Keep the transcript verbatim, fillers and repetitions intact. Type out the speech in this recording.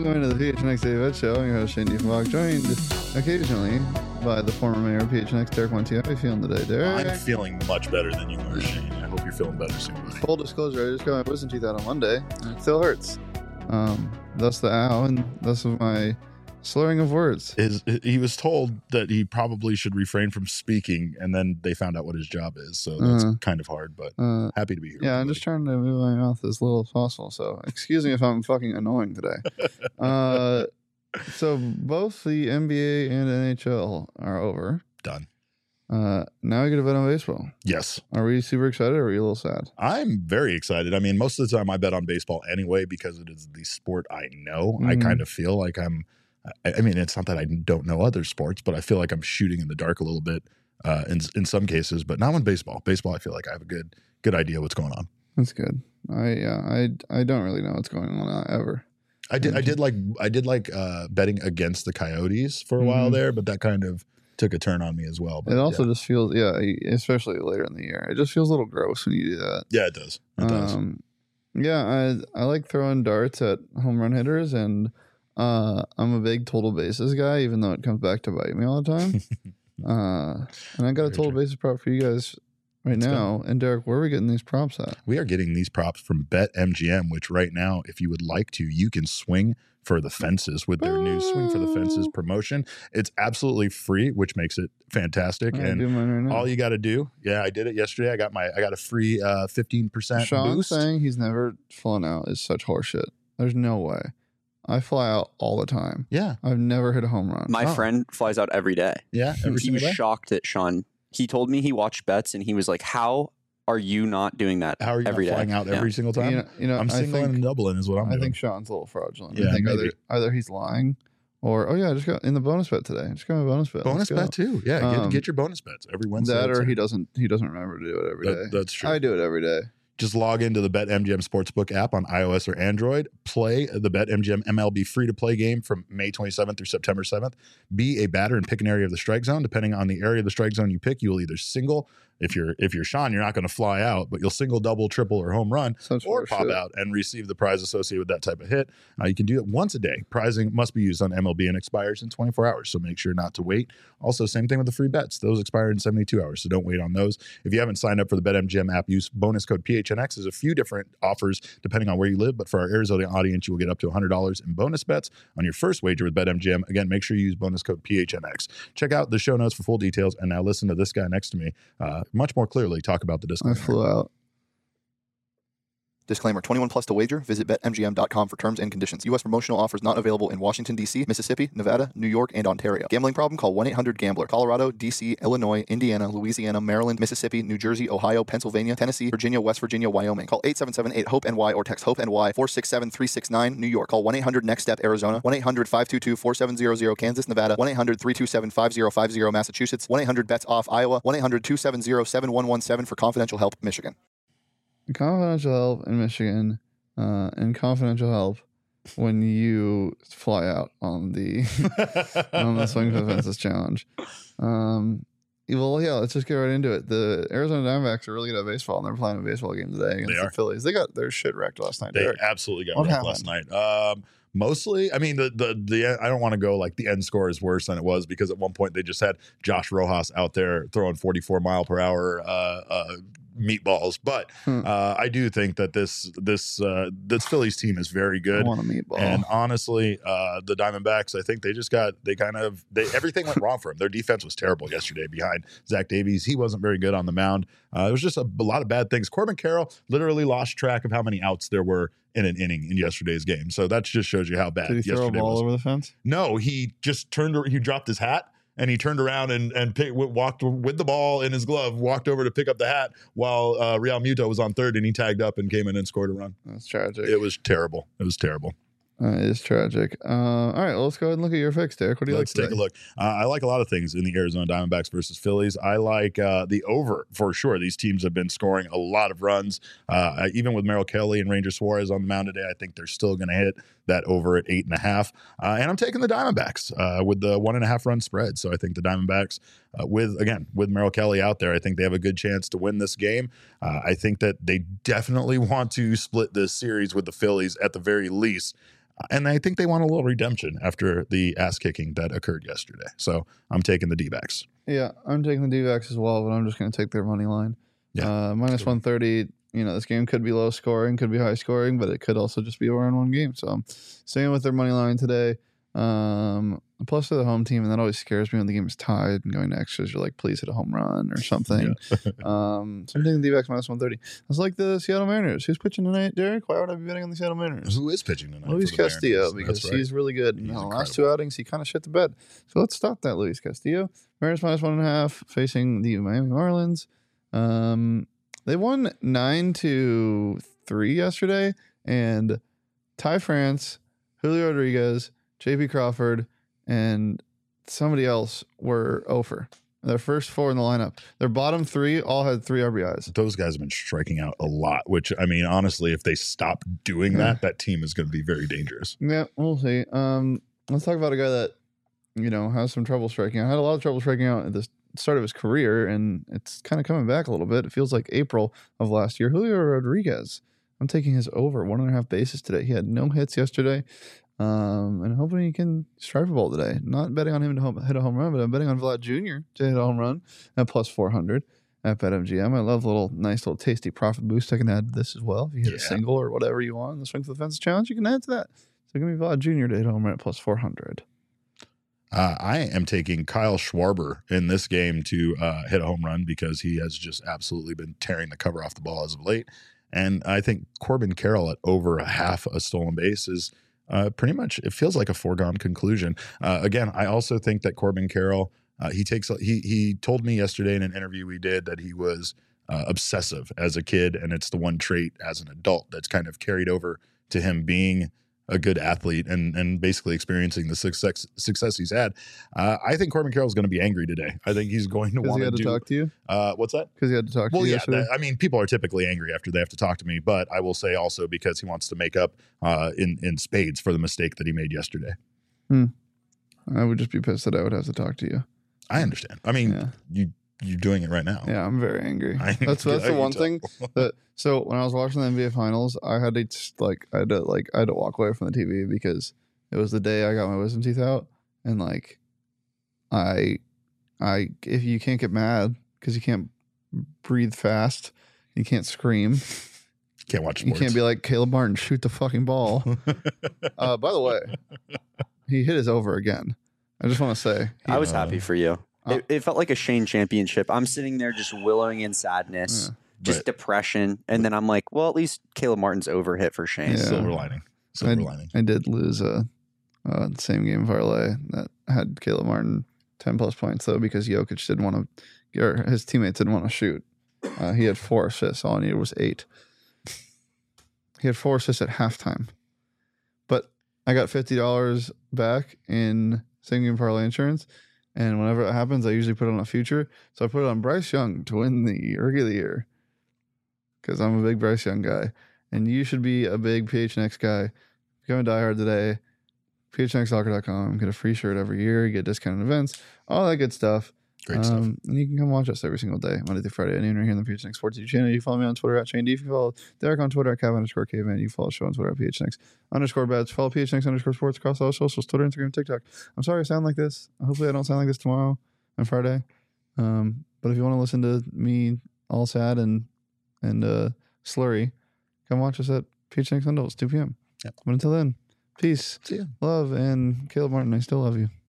Welcome to the P H N X Daily Bet Show. I'm your host, Shane Diefenbach, joined occasionally by the former mayor of P H N X, Derek Montiel. How are you feeling today, Derek? I'm feeling much better than you are, Shane. I hope you're feeling better soon, buddy. Full disclosure, I just got my wisdom teeth out on Monday, and it still hurts. Um, thus the ow, and thus my slurring of words. His, he was told that he probably should refrain from speaking, and then they found out what his job is, so that's Uh, kind of hard, but Uh, happy to be here. yeah, with I'm you, just trying to move my mouth as little as possible, so excuse me if I'm fucking annoying today. uh, so both the N B A and N H L are over. Done. Uh, now we get to bet on baseball. Yes. Are we super excited or are we a little sad? I'm very excited. I mean, most of the time I bet on baseball anyway because it is the sport I know. I Mhm. kind of feel like I'm, I, I mean, it's not that I don't know other sports, but I feel like I'm shooting in the dark a little bit uh, in in some cases, but not in baseball. Baseball, I feel like I have a good good idea what's going on. That's good. I yeah, I I don't really know what's going on uh, ever. I did I did like I did like uh, betting against the Coyotes for a while Mhm. there, but that kind of took a turn on me as well. But It also yeah. just feels yeah, especially later in the year. It just feels a little gross when you do that. yeah, it does. It does. Um, yeah, I I like throwing darts at home run hitters, and uh, I'm a big total bases guy, even though it comes back to bite me all the time. uh, and I got a Very total true. bases prop for you guys right Let's go. now. And Derek, where are we getting these props at? We are getting these props from BetMGM, which right now, if you would like to, you can swing for the fences with their new Swing for the Fences promotion. It's absolutely free, which makes it fantastic. I'm and doing mine right now. all you got to do, yeah, I did it yesterday. I got my, I got a free uh, fifteen percent Sean boost. saying he's never flown out is such horseshit. There's no way. I fly out all the time. Yeah, I've never hit a home run. My Oh. friend flies out every day. yeah, every he single was day. shocked that Sean. He told me he watched bets and he was like, "How are you not doing that How are you every not day?" flying out Yeah. every single time? You know, you know I'm I singling think, and doubling is what I'm I doing. think Sean's a little fraudulent. Yeah, I think maybe. either either he's lying or oh yeah, I just got in the bonus bet today. I just got my bonus bet. bonus Let's go. bet too. Yeah, get, Um, get your bonus bets every Wednesday. That or That's he it. doesn't he doesn't remember to do it every day. That- that's true. I do it every day. Just log into the BetMGM Sportsbook app on iOS or Android. Play the BetMGM M L B free-to-play game from May twenty-seventh through September seventh. Be a batter and pick an area of the strike zone. Depending on the area of the strike zone you pick, you will either single. If you're if you're Sean, you're not going to fly out, but you'll single, double, triple, or home run, Such or horseshit. pop out and receive the prize associated with that type of hit. Uh, you can do it once a day. Prizing must be used on M L B and expires in twenty-four hours, so make sure not to wait. Also, same thing with the free bets. Those expire in seventy-two hours, so don't wait on those. If you haven't signed up for the BetMGM app, use bonus code P H N X. There's a few different offers depending on where you live, but for our Arizona audience, you will get up to one hundred dollars in bonus bets on your first wager with BetMGM. Again, make sure you use bonus code P H N X. Check out the show notes for full details, and now listen to this guy next to me uh, much more clearly talk about the I disclaimer. flew out. Disclaimer, twenty-one plus to wager. Visit bet M G M dot com for terms and conditions. U S promotional offers not available in Washington, D C, Mississippi, Nevada, New York, and Ontario. Gambling problem? Call one eight hundred gambler. Colorado, D C, Illinois, Indiana, Louisiana, Maryland, Mississippi, New Jersey, Ohio, Pennsylvania, Tennessee, Virginia, West Virginia, Wyoming. Call eight seven seven eight hope N Y or text HOPE-N Y four six seven three six nine. New York. Call one eight hundred next step Arizona. one eight hundred five two two four seven zero zero Kansas, Nevada. one eight hundred three two seven five zero five zero Massachusetts. one eight hundred bets off Iowa. one eight hundred two seven zero seven one one seven for confidential help, Michigan. Confidential help in Michigan, uh, and confidential help when you fly out on the on the Swing for the Fences challenge. Um, well, yeah, let's just get right into it. The Arizona Diamondbacks are really good at baseball, and they're playing a baseball game today against They the are. Phillies. They got their shit wrecked last night. They Derek. absolutely got What wrecked last night. Um, mostly, I mean, the the the I don't want to go like the end score is worse than it was because at one point they just had Josh Rojas out there throwing forty-four mile per hour uh, uh, meatballs. But Hmm. uh, I do think that this this uh, this Phillies team is very I good. want a meatball. And honestly, uh, the Diamondbacks, I think they just got, they kind of, they everything went wrong for them. Their defense was terrible yesterday behind Zach Davies. He wasn't very good on the mound. Uh, it was just a, a lot of bad things. Corbin Carroll literally lost track of how many outs there were in an inning in yesterday's game. So that just shows you how bad Did he throw a yesterday ball was. over the fence? No, he just turned, he dropped his hat. And he turned around and and pick, walked with the ball in his glove, walked over to pick up the hat while uh, Real Muto was on third, and he tagged up and came in and scored a run. That's tragic. It was terrible. It was terrible. Uh, it is tragic. Uh, all right, well, let's go ahead and look at your fix, Derek. What do you Let's like take today? a look. Uh, I like a lot of things in the Arizona Diamondbacks versus Phillies. I like uh, the over for sure. These teams have been scoring a lot of runs. Uh, even with Merrill Kelly and Ranger Suarez on the mound today, I think they're still going to hit that over at eight and a half. Uh, and I'm taking the Diamondbacks uh, with the one and a half run spread. So I think the Diamondbacks, uh, with again with Merrill Kelly out there, I think they have a good chance to win this game. Uh, I think that they definitely want to split this series with the Phillies at the very least. And I think they want a little redemption after the ass kicking that occurred yesterday. So I'm taking the D-backs. Yeah, I'm taking the D-backs as well, but I'm just going to take their money line. Yeah. Uh, minus one thirty. You know, this game could be low scoring, could be high scoring, but it could also just be a one-on-one game. So I'm staying with their money line today. Um, plus, they're the home team, and that always scares me when the game is tied and going to extras. You're like, please hit a home run or something. Yeah. um, so I'm taking the D-backs minus one thirty. It's like the Seattle Mariners. Who's pitching tonight, Derek? Why would I be betting on the Seattle Mariners? Who is pitching tonight? Luis Castillo, Mariners? because right. he's really good. In the last incredible. two outings, he kind of shit the bed. So let's stop that, Luis Castillo. Mariners minus one and a half facing the Miami Marlins. Um, they won nine to three yesterday, and Ty France, Julio Rodriguez, J P Crawford, and somebody else were over. Their first four in the lineup. Their bottom three all had three R B Is. Those guys have been striking out a lot, which, I mean, honestly, if they stop doing yeah. that, that team is going to be very dangerous. Yeah, we'll see. Um, let's talk about a guy that, you know, has some trouble striking out. Had a lot of trouble striking out at the start of his career, and it's kind of coming back a little bit. It feels like April of last year. Julio Rodriguez. I'm taking his over one and a half bases today. He had no hits yesterday. Um, and hoping he can strike a ball today. Not betting on him to home, hit a home run, but I'm betting on Vlad Junior to hit a home run at plus four hundred at BetMGM. I love a little nice little tasty profit boost. I can add to this as well. If you hit yeah. a single or whatever you want in the Swing for the Fences challenge, you can add to that. So give me Vlad Junior to hit a home run at plus four hundred. Uh, I am taking Kyle Schwarber in this game to uh, hit a home run because he has just absolutely been tearing the cover off the ball as of late. And I think Corbin Carroll at over a half a stolen base is Uh, pretty much, it feels like a foregone conclusion. Uh, again, I also think that Corbin Carroll, uh, he takes, he he told me yesterday in an interview we did that he was uh, obsessive as a kid, and it's the one trait as an adult that's kind of carried over to him being a good athlete and and basically experiencing the success success he's had. Uh, I think Corbin Carroll is going to be angry today. I think he's going to want he to had to do, talk to you. Uh, what's that? Because he had to talk well, to you. Yeah, yesterday? That, I mean, people are typically angry after they have to talk to me, but I will say also because he wants to make up uh, in in spades for the mistake that he made yesterday. Hmm. I would just be pissed that I would have to talk to you. I understand. I mean, yeah. you you're doing it right now. Yeah, I'm very angry. I, that's that's I the one tell. thing that. So when I was watching the N B A Finals, I had to like I had to like I had to walk away from the T V because it was the day I got my wisdom teeth out, and like I I if you can't get mad because you can't breathe fast, you can't scream, can't watch sports. You can't be like Caleb Martin, shoot the fucking ball. uh, by the way, he hit his over again. I just want to say he, I was uh, happy for you. Uh, it, it felt like a Shane championship. I'm sitting there just wallowing in sadness. Yeah. Just but, depression, and then I'm like, well, at least Caleb Martin's over hit for Shane. Yeah. Silver lining. Silver I, lining. I did lose a, a same game parlay that had Caleb Martin ten plus points though because Jokic didn't want to, or his teammates didn't want to shoot. Uh, he had four assists. All I needed was eight. He had four assists at halftime, but I got fifty dollars back in same game parlay insurance. And whenever it happens, I usually put it on a future. So I put it on Bryce Young to win the Rookie of the Year. Because I'm a big Bryce Young guy. And you should be a big P H N X guy. Become a diehard today. P H N X soccer dot com. Get a free shirt every year. You get discounted events. All that good stuff. Great um, stuff. And you can come watch us every single day, Monday through Friday at noon right here on the P H N X Sports YouTube channel. You follow me on Twitter at Shane D. If you follow Derek on Twitter at Cav underscore Caveman. You follow the show on Twitter at P H N X underscore bets. Follow P H N X underscore sports across all socials, Twitter, Instagram, TikTok. I'm sorry I sound like this. Hopefully I don't sound like this tomorrow on Friday. Um, but if you want to listen to me all sad and and uh, slurry, come watch us at P H N X Sundays, two p.m. Yep. But until then, peace, See ya. love, and Caleb Martin, I still love you.